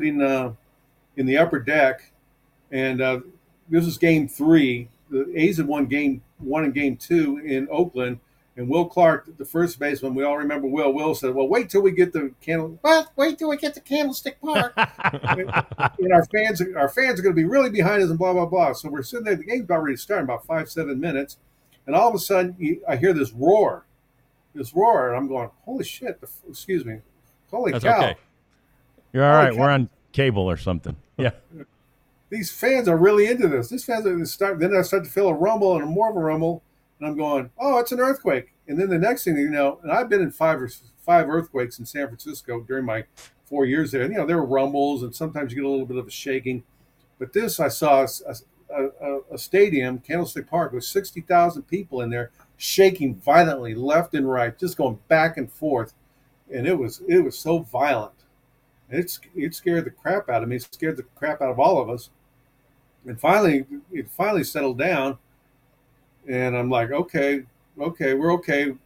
in the upper deck, and this is Game 3. The A's had won Game 1 and Game 2 in Oakland. And Will Clark, the first baseman, we all remember Will said, well, wait till we get to Candlestick Park. and our fans are going to be really behind us and blah, blah, blah. So we're sitting there. The game's about ready to start in about 5-7 minutes. And all of a sudden, I hear this roar. And I'm going, holy shit. Excuse me. Holy That's cow. Okay. You're all right. We're on cable or something. Yeah. These fans are really into this. These fans are then I start to feel a rumble and more of a rumble. And I'm going, oh, it's an earthquake. And then the next thing you know, and I've been in five earthquakes in San Francisco during my 4 years there. And, there were rumbles, and sometimes you get a little bit of a shaking. But this, I saw a stadium, Candlestick Park, with 60,000 people in there, shaking violently left and right, just going back and forth. And it was so violent. And it scared the crap out of me. It scared the crap out of all of us. And finally, it settled down. And I'm like, okay, we're okay.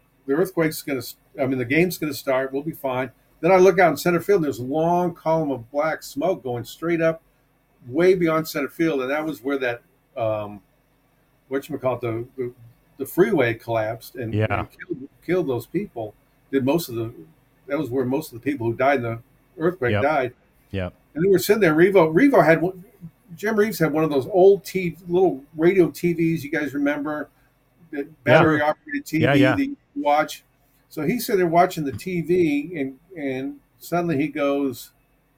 The game's going to start. We'll be fine. Then I look out in center field, and there's a long column of black smoke going straight up, way beyond center field. And that was where that, the freeway collapsed and killed those people. did most of the. That was where most of the people who died in the earthquake Yep. died. Yep. And they were sitting there. Revo had Jim Reeves had one of those old little radio TVs. You guys remember that battery operated TV Yeah. that you watch? So he's sitting there watching the TV, and suddenly he goes,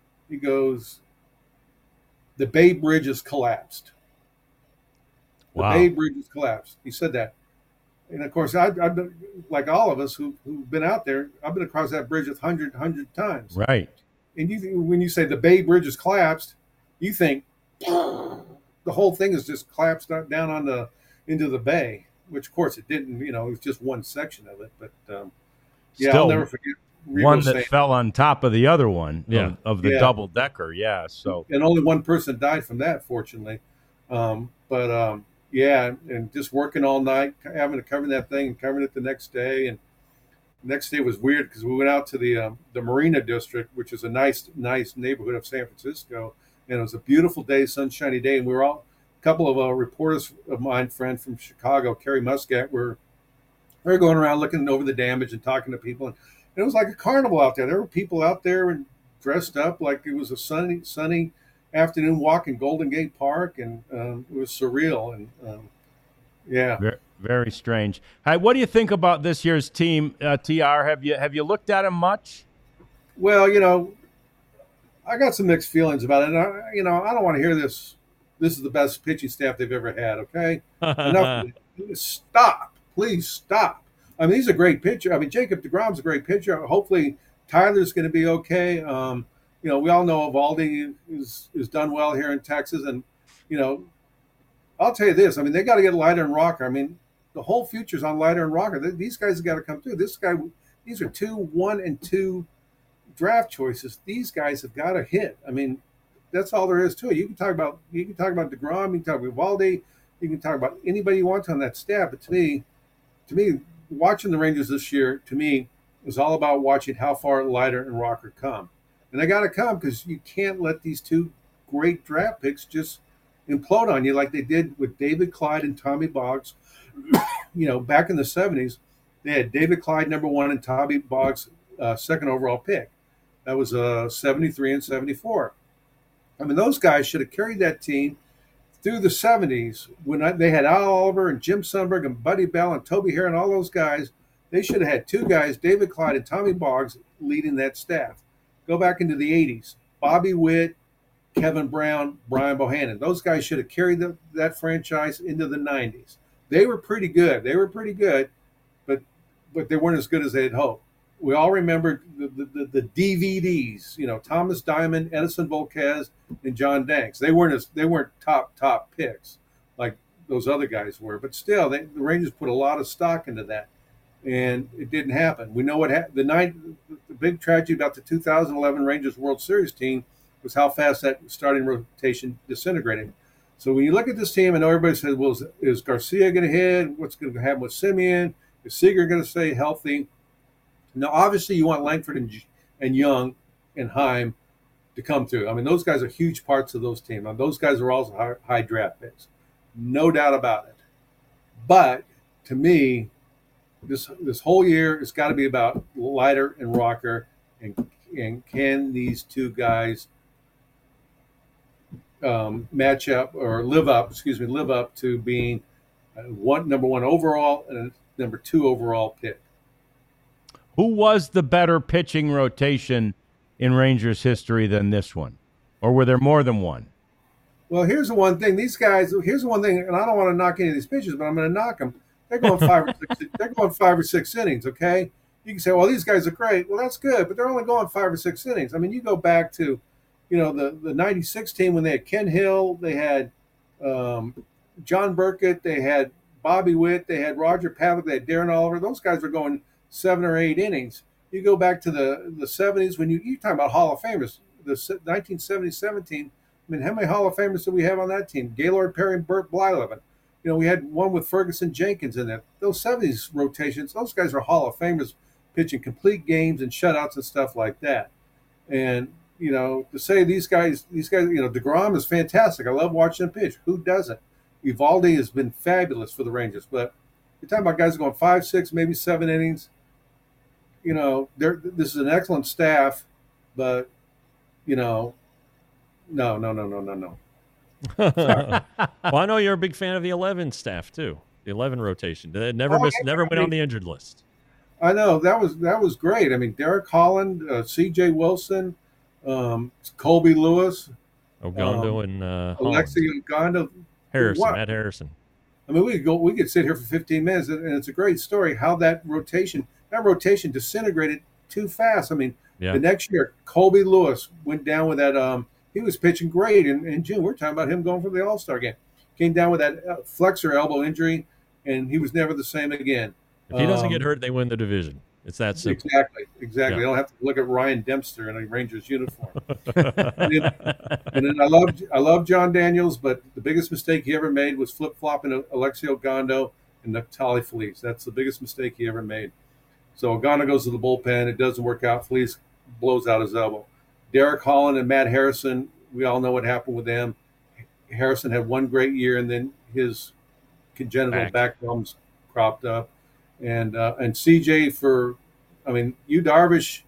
the Bay Bridge has collapsed. The Wow. Bay Bridge has collapsed. He said that. And of course, I've been, like all of us who've been out there, I've been across that bridge 100 times. Right. And when you say the Bay Bridge has collapsed, you think the whole thing is just collapsed down into the bay, which of course it didn't. It was just one section of it. But yeah, Still, I'll never forget one that fell on top of the other one of the Yeah. double decker. Yeah. So and only one person died from that, fortunately. Yeah, and just working all night, having to cover that thing and covering it the next day. And the next day was weird because we went out to the Marina District, which is a nice neighborhood of San Francisco, and it was a beautiful day, sunshiny day, and we were all a couple of reporters of mine, friend from Chicago, Kerry Muscat, we were going around looking over the damage and talking to people, and it was like a carnival out there. There were people out there and dressed up like it was a sunny afternoon walk in Golden Gate Park, and it was surreal. And yeah, very, very strange. Hey, what do you think about this year's team, TR? Have you looked at him much? Well, I got some mixed feelings about it. I don't want to hear this. This is the best pitching staff they've ever had. Okay, enough. Stop, please stop. I mean, he's a great pitcher. I mean, Jacob deGrom's a great pitcher. Hopefully, Tyler's going to be okay. We all know Evaldi is done well here in Texas, and I'll tell you this. I mean, they got to get Leiter and Rocker. I mean, the whole future's on Leiter and Rocker. These guys have got to come through. These are 1 and 2 draft choices. These guys have got to hit. I mean, that's all there is to it. You can talk about deGrom. You can talk about Evaldi. You can talk about anybody you want on that staff. But to me, watching the Rangers this year, to me, was all about watching how far Leiter and Rocker come. And they got to come because you can't let these two great draft picks just implode on you like they did with David Clyde and Tommy Boggs. Back in the 70s, they had David Clyde number 1 and Tommy Boggs second overall pick. That was 73 and 74. I mean, those guys should have carried that team through the 70s when they had Al Oliver and Jim Sundberg and Buddy Bell and Toby Hare and all those guys. They should have had 2 guys, David Clyde and Tommy Boggs, leading that staff. Go back into the 80s. Bobby Witt, Kevin Brown, Brian Bohannon. Those guys should have carried that franchise into the 90s. They were pretty good. But they weren't as good as they had hoped. We all remember the DVDs. Thomas Diamond, Edison Volquez, and John Danks. They weren't top picks like those other guys were. But still, the Rangers put a lot of stock into that, and it didn't happen. We know what happened. The big tragedy about the 2011 Rangers World Series team was how fast that starting rotation disintegrated. So when you look at this team, I know everybody says, well, is Garcia going to hit? What's going to happen with Simeon? Is Seager going to stay healthy? Now, obviously, you want Langford and Young and Heim to come through. I mean, those guys are huge parts of those teams. Those guys are also high draft picks. No doubt about it. But to me, this whole year, it's got to be about Leiter and Rocker, and can these 2 guys match up or live up to being number 1 overall and a number 2 overall pick. Who was the better pitching rotation in Rangers history than this one? Or were there more than one? Well, here's the one thing. These guys, and I don't want to knock any of these pitchers, but I'm going to knock them. They're going 5 or 6. They're going 5 or 6 innings. Okay, you can say, well, these guys are great. Well, that's good, but they're only going 5 or 6 innings. I mean, you go back to, the '96 team when they had Ken Hill, they had John Burkett, they had Bobby Witt, they had Roger Pavlik, they had Darren Oliver. Those guys were going 7 or 8 innings. You go back to the 70s when you talk about Hall of Famers. The 1977 team. I mean, how many Hall of Famers do we have on that team? Gaylord Perry and Burt Blyleven. We had one with Ferguson Jenkins in there. Those 70s rotations, those guys are Hall of Famers pitching complete games and shutouts and stuff like that. And, to say these guys, deGrom is fantastic. I love watching him pitch. Who doesn't? Evaldi has been fabulous for the Rangers. But you're talking about guys going 5, 6, maybe 7 innings. this is an excellent staff, but no, no, no, no, no, no, no. Well, I know you're a big fan of the 11 staff too. The 11 rotation. They never went on the injured list. I know that was great. I mean, Derek Holland, C.J. Wilson, Colby Lewis, Ogando and Alexi Ogando, Matt Harrison. I mean, we could sit here for 15 minutes, and it's a great story how that rotation disintegrated too fast. I mean, the next year, Colby Lewis went down with that. He was pitching great in June. We're talking about him going for the All-Star game. Came down with that flexor elbow injury, and he was never the same again. If he doesn't get hurt, they win the division. It's that simple. Exactly. Yeah. They don't have to look at Ryan Dempster in a Rangers uniform. and then I love John Daniels, but the biggest mistake he ever made was flip-flopping Alexi Ogando and Natali Feliz. That's the biggest mistake he ever made. So Ogando goes to the bullpen. It doesn't work out. Feliz blows out his elbow. Derek Holland and Matt Harrison, we all know what happened with them. Harrison had one great year, and then his congenital back problems cropped up. And CJ Yu Darvish,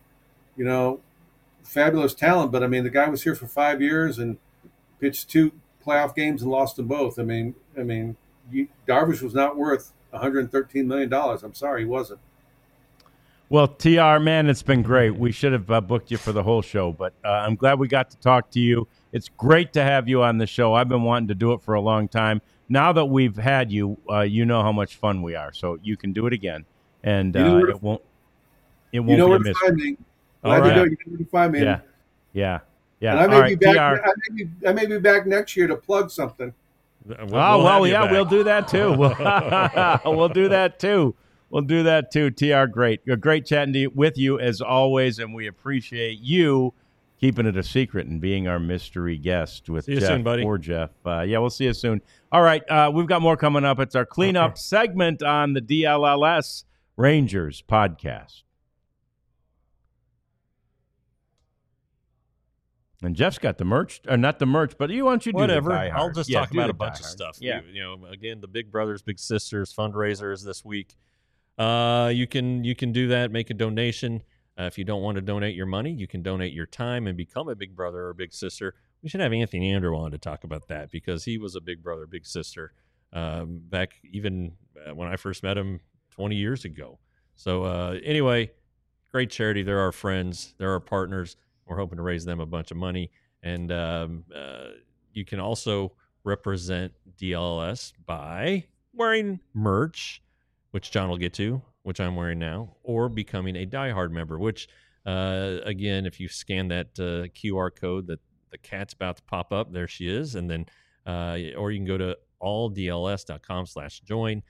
fabulous talent, but I mean the guy was here for 5 years and pitched 2 playoff games and lost them both. Darvish was not worth $113 million. I'm sorry, he wasn't. Well, TR, man, it's been great. We should have booked you for the whole show, but I'm glad we got to talk to you. It's great to have you on the show. I've been wanting to do it for a long time. Now that we've had you, you know how much fun we are, so you can do it again, and it won't be a mystery. Find me. Glad to know you know where to find me. Yeah. And I may be back. I may be back next year to plug something. We'll do that too. We'll do that too. We'll do that too. TR, great. Great chatting with you as always, and we appreciate you keeping it a secret and being our mystery guest with see you Jeff soon, buddy. or Jeff. We'll see you soon. All right, we've got more coming up. It's our cleanup segment on the DLLS Rangers podcast. And Jeff's got the merch, or not the merch, but why don't you do whatever? The Die Hard? I'll just talk about a bunch of stuff. Yeah. Again, the Big Brothers Big Sisters fundraisers this week. You can do that. Make a donation. If you don't want to donate your money, you can donate your time and become a big brother or big sister. We should have Anthony Andrew on to talk about that because he was a big brother, big sister back even when I first met him 20 years ago. So anyway, great charity. They're our friends. They're our partners. We're hoping to raise them a bunch of money. And you can also represent DLS by wearing merch, which John will get to, which I'm wearing now, or becoming a Die Hard member, which, again, if you scan that QR code that the cat's about to pop up, there she is. And then, or you can go to alldls.com/join.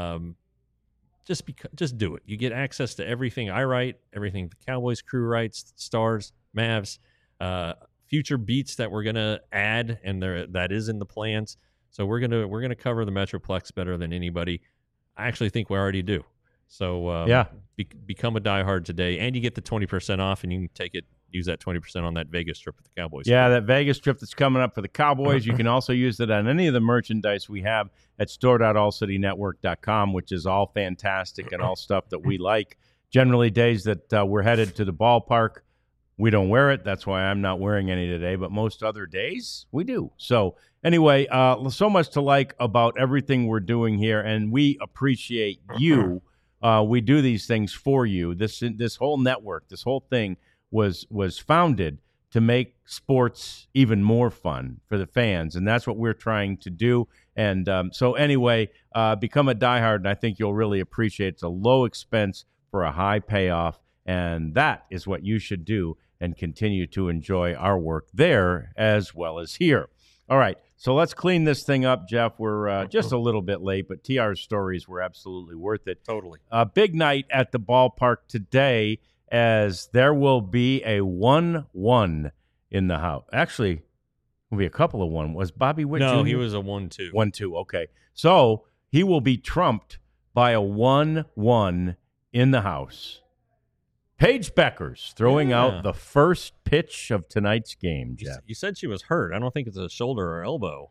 Just do it. You get access to everything I write, everything the Cowboys crew writes, Stars, Mavs, future beats that we're gonna add, and that is in the plans. So we're gonna cover the Metroplex better than anybody. I actually think we already do. So become a diehard today, and you get the 20% off, and you can use that 20% on that Vegas trip with the Cowboys. Yeah, that Vegas trip that's coming up for the Cowboys. You can also use it on any of the merchandise we have at store.allcitynetwork.com, which is all fantastic and all stuff that we like. Generally, days that we're headed to the ballpark, we don't wear it. That's why I'm not wearing any today. But most other days, we do. So anyway, so much to like about everything we're doing here, and we appreciate you. We do these things for you. This whole network, this whole thing was founded to make sports even more fun for the fans, and that's what we're trying to do. And so anyway, become a diehard, and I think you'll really appreciate it. It's a low expense for a high payoff, and that is what you should do and continue to enjoy our work there as well as here. All right, so let's clean this thing up, Jeff. We're just a little bit late, but TR's stories were absolutely worth it. Totally. A big night at the ballpark today, as there will be a 1-1 in the house. Actually, will be a couple of 1. Was Bobby Witt No, Jr.? he was a 1-2. 1-2, okay. So he will be trumped by a 1-1 in the house. Paige Beckers throwing out the first pitch of tonight's game, Jeff. You said she was hurt. I don't think it's a shoulder or elbow.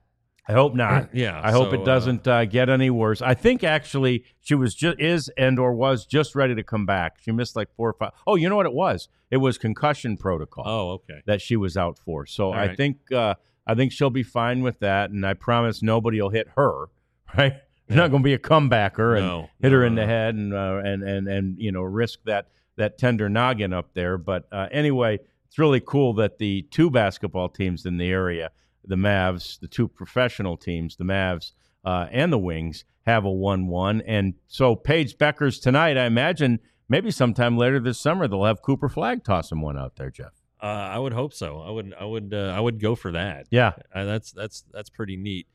I hope not. Yeah, I hope so, it doesn't get any worse. I think actually she was just ready to come back. She missed like 4 or 5. Oh, you know what it was? It was concussion protocol. Oh, okay. That she was out for. So All right. I think she'll be fine with that, and I promise nobody will hit her. Right? There's not going to be a comebacker and hit her in the head and risk that tender noggin up there. But anyway, it's really cool that the two basketball teams in the area, the Mavs, the two professional teams, the Mavs and the Wings, have a 1-1. And so Paige Beckers tonight, I imagine maybe sometime later this summer they'll have Cooper Flagg tossing one out there, Jeff. I would hope so. I would go for that. Yeah, that's pretty neat.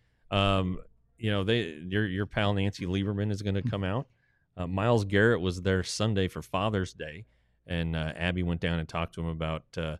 Your pal Nancy Lieberman is going to come out. Myles Garrett was there Sunday for Father's Day, and Abby went down and talked to him about the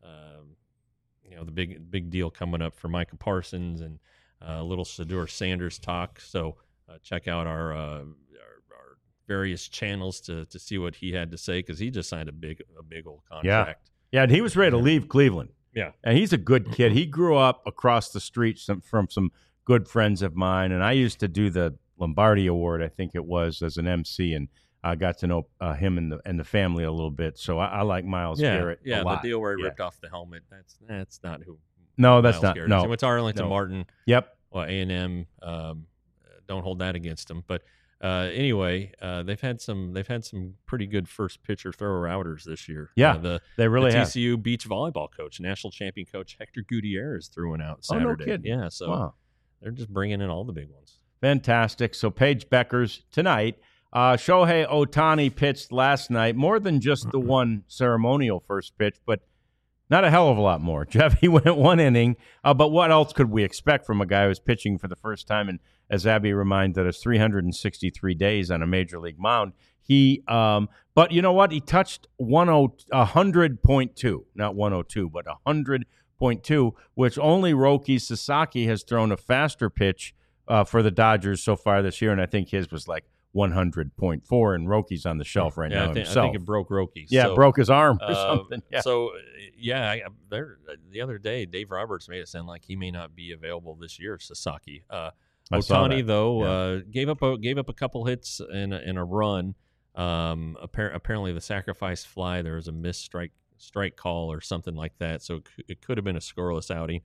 big deal coming up for Micah Parsons and a little Shedeur Sanders talk. So check out our various channels to see what he had to say, because he just signed a big old contract. Yeah, and he was ready to leave Cleveland. Yeah, and he's a good kid. He grew up across the street from some good friends of mine, and I used to do the Lombardi Award, I think it was, as an MC, and I got to know him and the family a little bit. So I like Myles Garrett a lot. The deal where he ripped off the helmet, that's not who. No, that's Myles not. Garrett. No, So it's Arlington Martin. Yep. Well, A&M. Don't hold that against him. But anyway, they've had some pretty good first pitcher thrower outers this year. Yeah, they really have. TCU beach volleyball coach, national champion coach Hector Gutierrez threw one out Saturday. Oh, no kidding. Yeah, so wow. They're just bringing in all the big ones. Fantastic. So Paige Beckers tonight. Shohei Ohtani pitched last night, more than just the one ceremonial first pitch, but not a hell of a lot more. Jeff, he went 1 inning, but what else could we expect from a guy who's pitching for the first time? And as Abby reminded us, 363 days on a major league mound. But you know what? He touched 100.2, not 102, but 100.2, which only Roki Sasaki has thrown a faster pitch for the Dodgers so far this year, and I think his was like 100.4, and Roki's on the shelf right now himself. I think it broke Roki. Yeah, broke his arm or something. Yeah. So, the other day, Dave Roberts made it sound like he may not be available this year, Sasaki. Ohtani, though, gave up a couple hits in a run. Apparently, the sacrifice fly, there was a missed strike call or something like that, so it could have been a scoreless outing.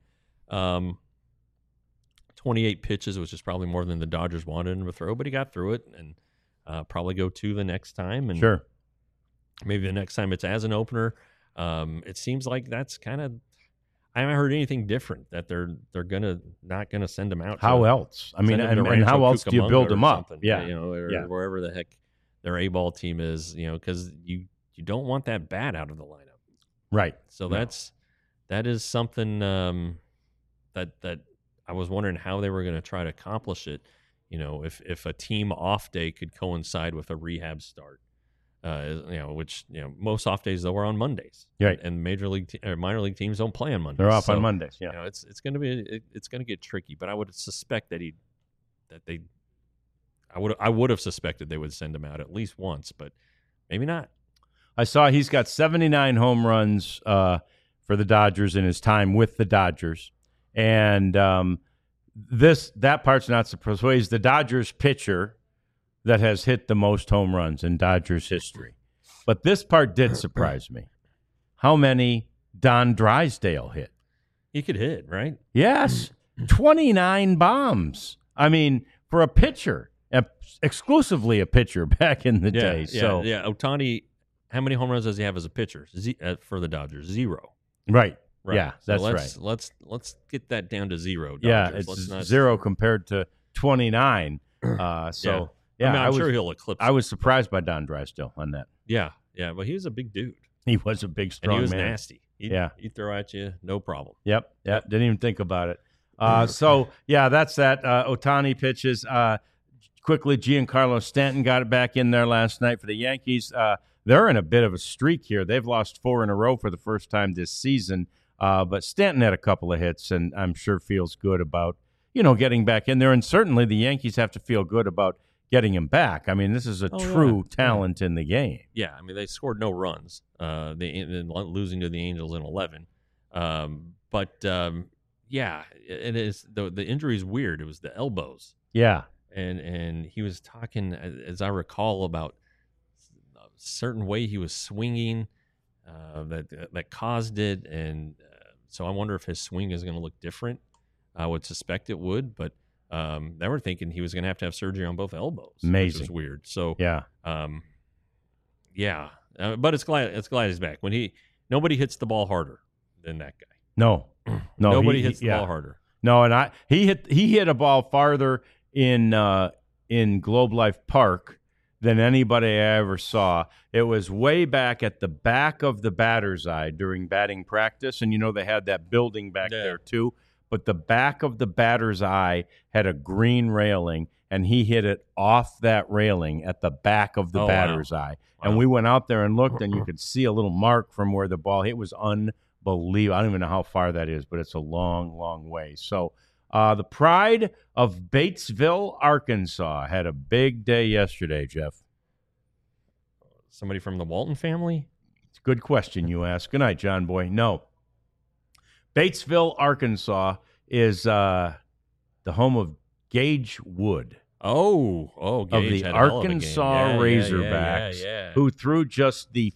28 pitches, which is probably more than the Dodgers wanted him to throw, but he got through it, and probably go 2 the next time. And sure, maybe the next time it's as an opener. It seems like that's kind of. I haven't heard anything different, that they're not gonna send him out. How else? I mean, and how else do you build him up? Yeah, or wherever the heck their A-ball team is, because you don't want that bat out of the lineup, right? So that is something that I was wondering how they were going to try to accomplish it. If a team off day could coincide with a rehab start, which most off days though are on Mondays, right? And minor league teams don't play on Mondays. They're off on Mondays. Yeah, it's going to get tricky. But I would suspect I would have suspected they would send him out at least once, but maybe not. I saw he's got 79 home runs for the Dodgers in his time with the Dodgers. And that part's not surprising. He's the Dodgers pitcher that has hit the most home runs in Dodgers history. But this part did surprise me. How many Don Drysdale hit? He could hit, right? Yes. 29 bombs. I mean, for a pitcher, exclusively a pitcher back in the day. So Ohtani, how many home runs does he have as a pitcher for the Dodgers? 0. Right. Right. Yeah, that's right. Let's get that down to 0. Dodgers. Yeah, it's 0 compared to 29. I'm sure he'll eclipse. I was surprised by Don Drysdale on that. Yeah, but he was a big dude. He was a big, strong man. And he was nasty. He'd throw at you, no problem. Yep. Didn't even think about it. That's that. Ohtani pitches. Quickly, Giancarlo Stanton got it back in there last night for the Yankees. They're in a bit of a streak here. They've lost 4 in a row for the first time this season. But Stanton had a couple of hits, and I'm sure feels good about, getting back in there. And certainly the Yankees have to feel good about getting him back. I mean, this is a true talent in the game. Yeah, I mean, they scored no runs, losing to the Angels in 11. yeah, it is. The injury is weird. It was the elbows. Yeah. And he was talking, as I recall, about a certain way he was swinging that caused it, and so I wonder if his swing is going to look different. I would suspect it would, but they were thinking he was going to have surgery on both elbows. Amazing. Which was weird. So Yeah. But it's glad he's back. Nobody hits the ball harder than that guy. No. Nobody hits the ball harder. No, and he hit a ball farther in Globe Life Park than anybody I ever saw. It was way back at the back of the batter's eye during batting practice, and they had that building back there too. But the back of the batter's eye had a green railing, and he hit it off that railing at the back of the batter's eye. Wow. And we went out there and looked, and you could see a little mark from where the ball hit. It was unbelievable. I don't even know how far that is, but it's a long, long way. So the pride of Batesville, Arkansas, had a big day yesterday, Jeff. Somebody from the Walton family? It's a good question you ask. Good night, John Boy. No. Batesville, Arkansas is the home of Gage Wood. Oh, Gage of the had Arkansas Razorbacks, who threw just the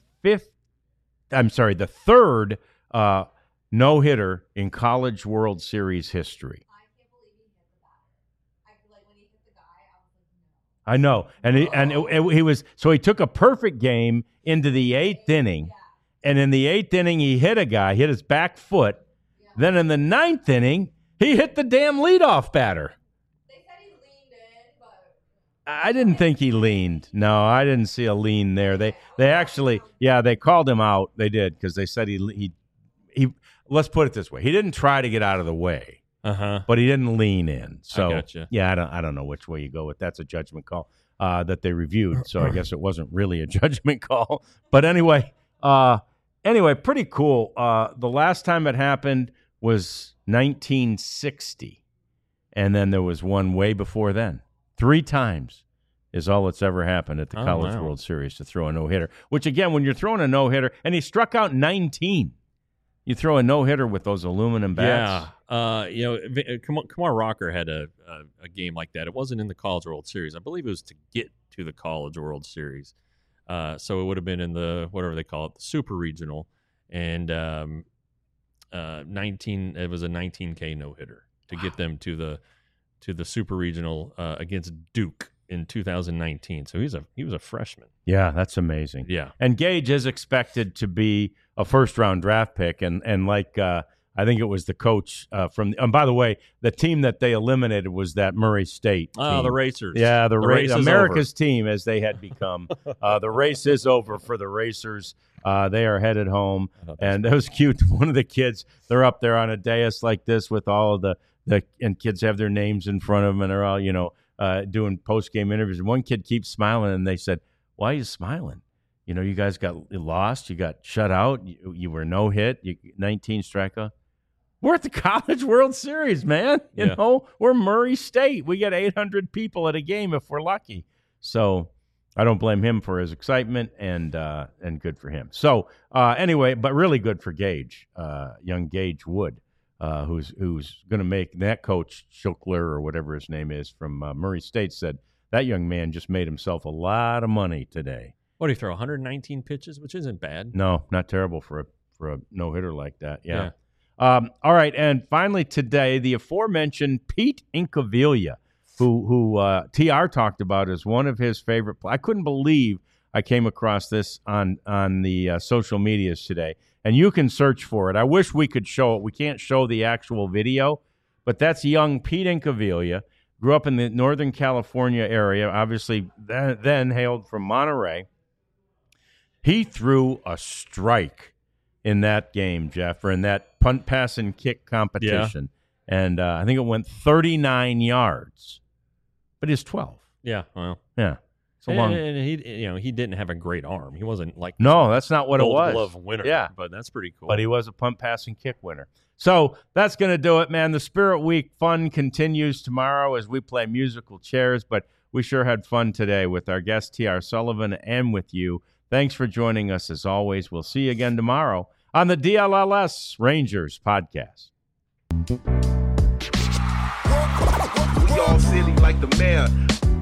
third no-hitter in College World Series history. I can't believe he hit the bat. When he hit the guy, I was like, no. I know, and he took a perfect game into the 8th inning, and in the 8th inning he hit a guy, hit his back foot. Yeah. Then in the 9th inning he hit the damn leadoff batter. They said he leaned in, but I didn't think he leaned. No, I didn't see a lean there. They actually, they called him out. They did, because they said he. Let's put it this way: he didn't try to get out of the way, but he didn't lean in. So I gotcha. I don't know which way you go with. That's a judgment call that they reviewed. So I guess it wasn't really a judgment call. But anyway, pretty cool. The last time it happened was 1960, and then there was one way before then. 3 times is all that's ever happened at the College World Series to throw a no-hitter. Which, again, when you're throwing a no-hitter, and he struck out 19. You throw a no-hitter with those aluminum bats. Yeah. Kumar Rocker had a game like that. It wasn't in the College World Series. I believe it was to get to the College World Series. So it would have been in the, whatever they call it, the Super Regional. And it was a 19K no-hitter to get them to the Super Regional against Duke in 2019. So he was a freshman. Yeah, that's amazing. Yeah. And Gage is expected to be a first-round draft pick, and like I think it was the coach and by the way, the team that they eliminated was that Murray State team. Oh, the Racers. Yeah, the race America's team, as they had become. The race is over for the Racers. They are headed home, and it was cute. One of the kids, they're up there on a dais like this with all of the and kids have their names in front of them, and they're all doing post-game interviews. And one kid keeps smiling, and they said, "Why are you smiling? You guys got lost. You got shut out. You were no hit. 19 strikeout. We're at the College World Series, man. You know, we're Murray State. We get 800 people at a game if we're lucky. So I don't blame him for his excitement, and good for him. So anyway, but really good for Gage, young Gage Wood, who's going to make that coach Schukler or whatever his name is from Murray State said that young man just made himself a lot of money today. What, did he throw 119 pitches, which isn't bad? No, not terrible for a no-hitter like that. Yeah. All right, and finally today, the aforementioned Pete Incaviglia, who TR talked about as one of his favorite players. I couldn't believe I came across this on the social medias today, and you can search for it. I wish we could show it. We can't show the actual video, but that's young Pete Incaviglia. Grew up in the Northern California area, obviously then hailed from Monterey. He threw a strike in that game, Jeff, or in that punt, pass, and kick competition. Yeah. And I think it went 39 yards. But he's 12. Yeah, well. Yeah. So long. And he didn't have a great arm. He wasn't like no, that's not what it was. Gold Glove winner. Yeah, but that's pretty cool. But he was a punt, pass, and kick winner. So that's going to do it, man. The Spirit Week fun continues tomorrow as we play musical chairs, but we sure had fun today with our guest T.R. Sullivan and with you. Thanks for joining us as always. We'll see you again tomorrow on the DLLS Rangers podcast. We all silly like the mayor.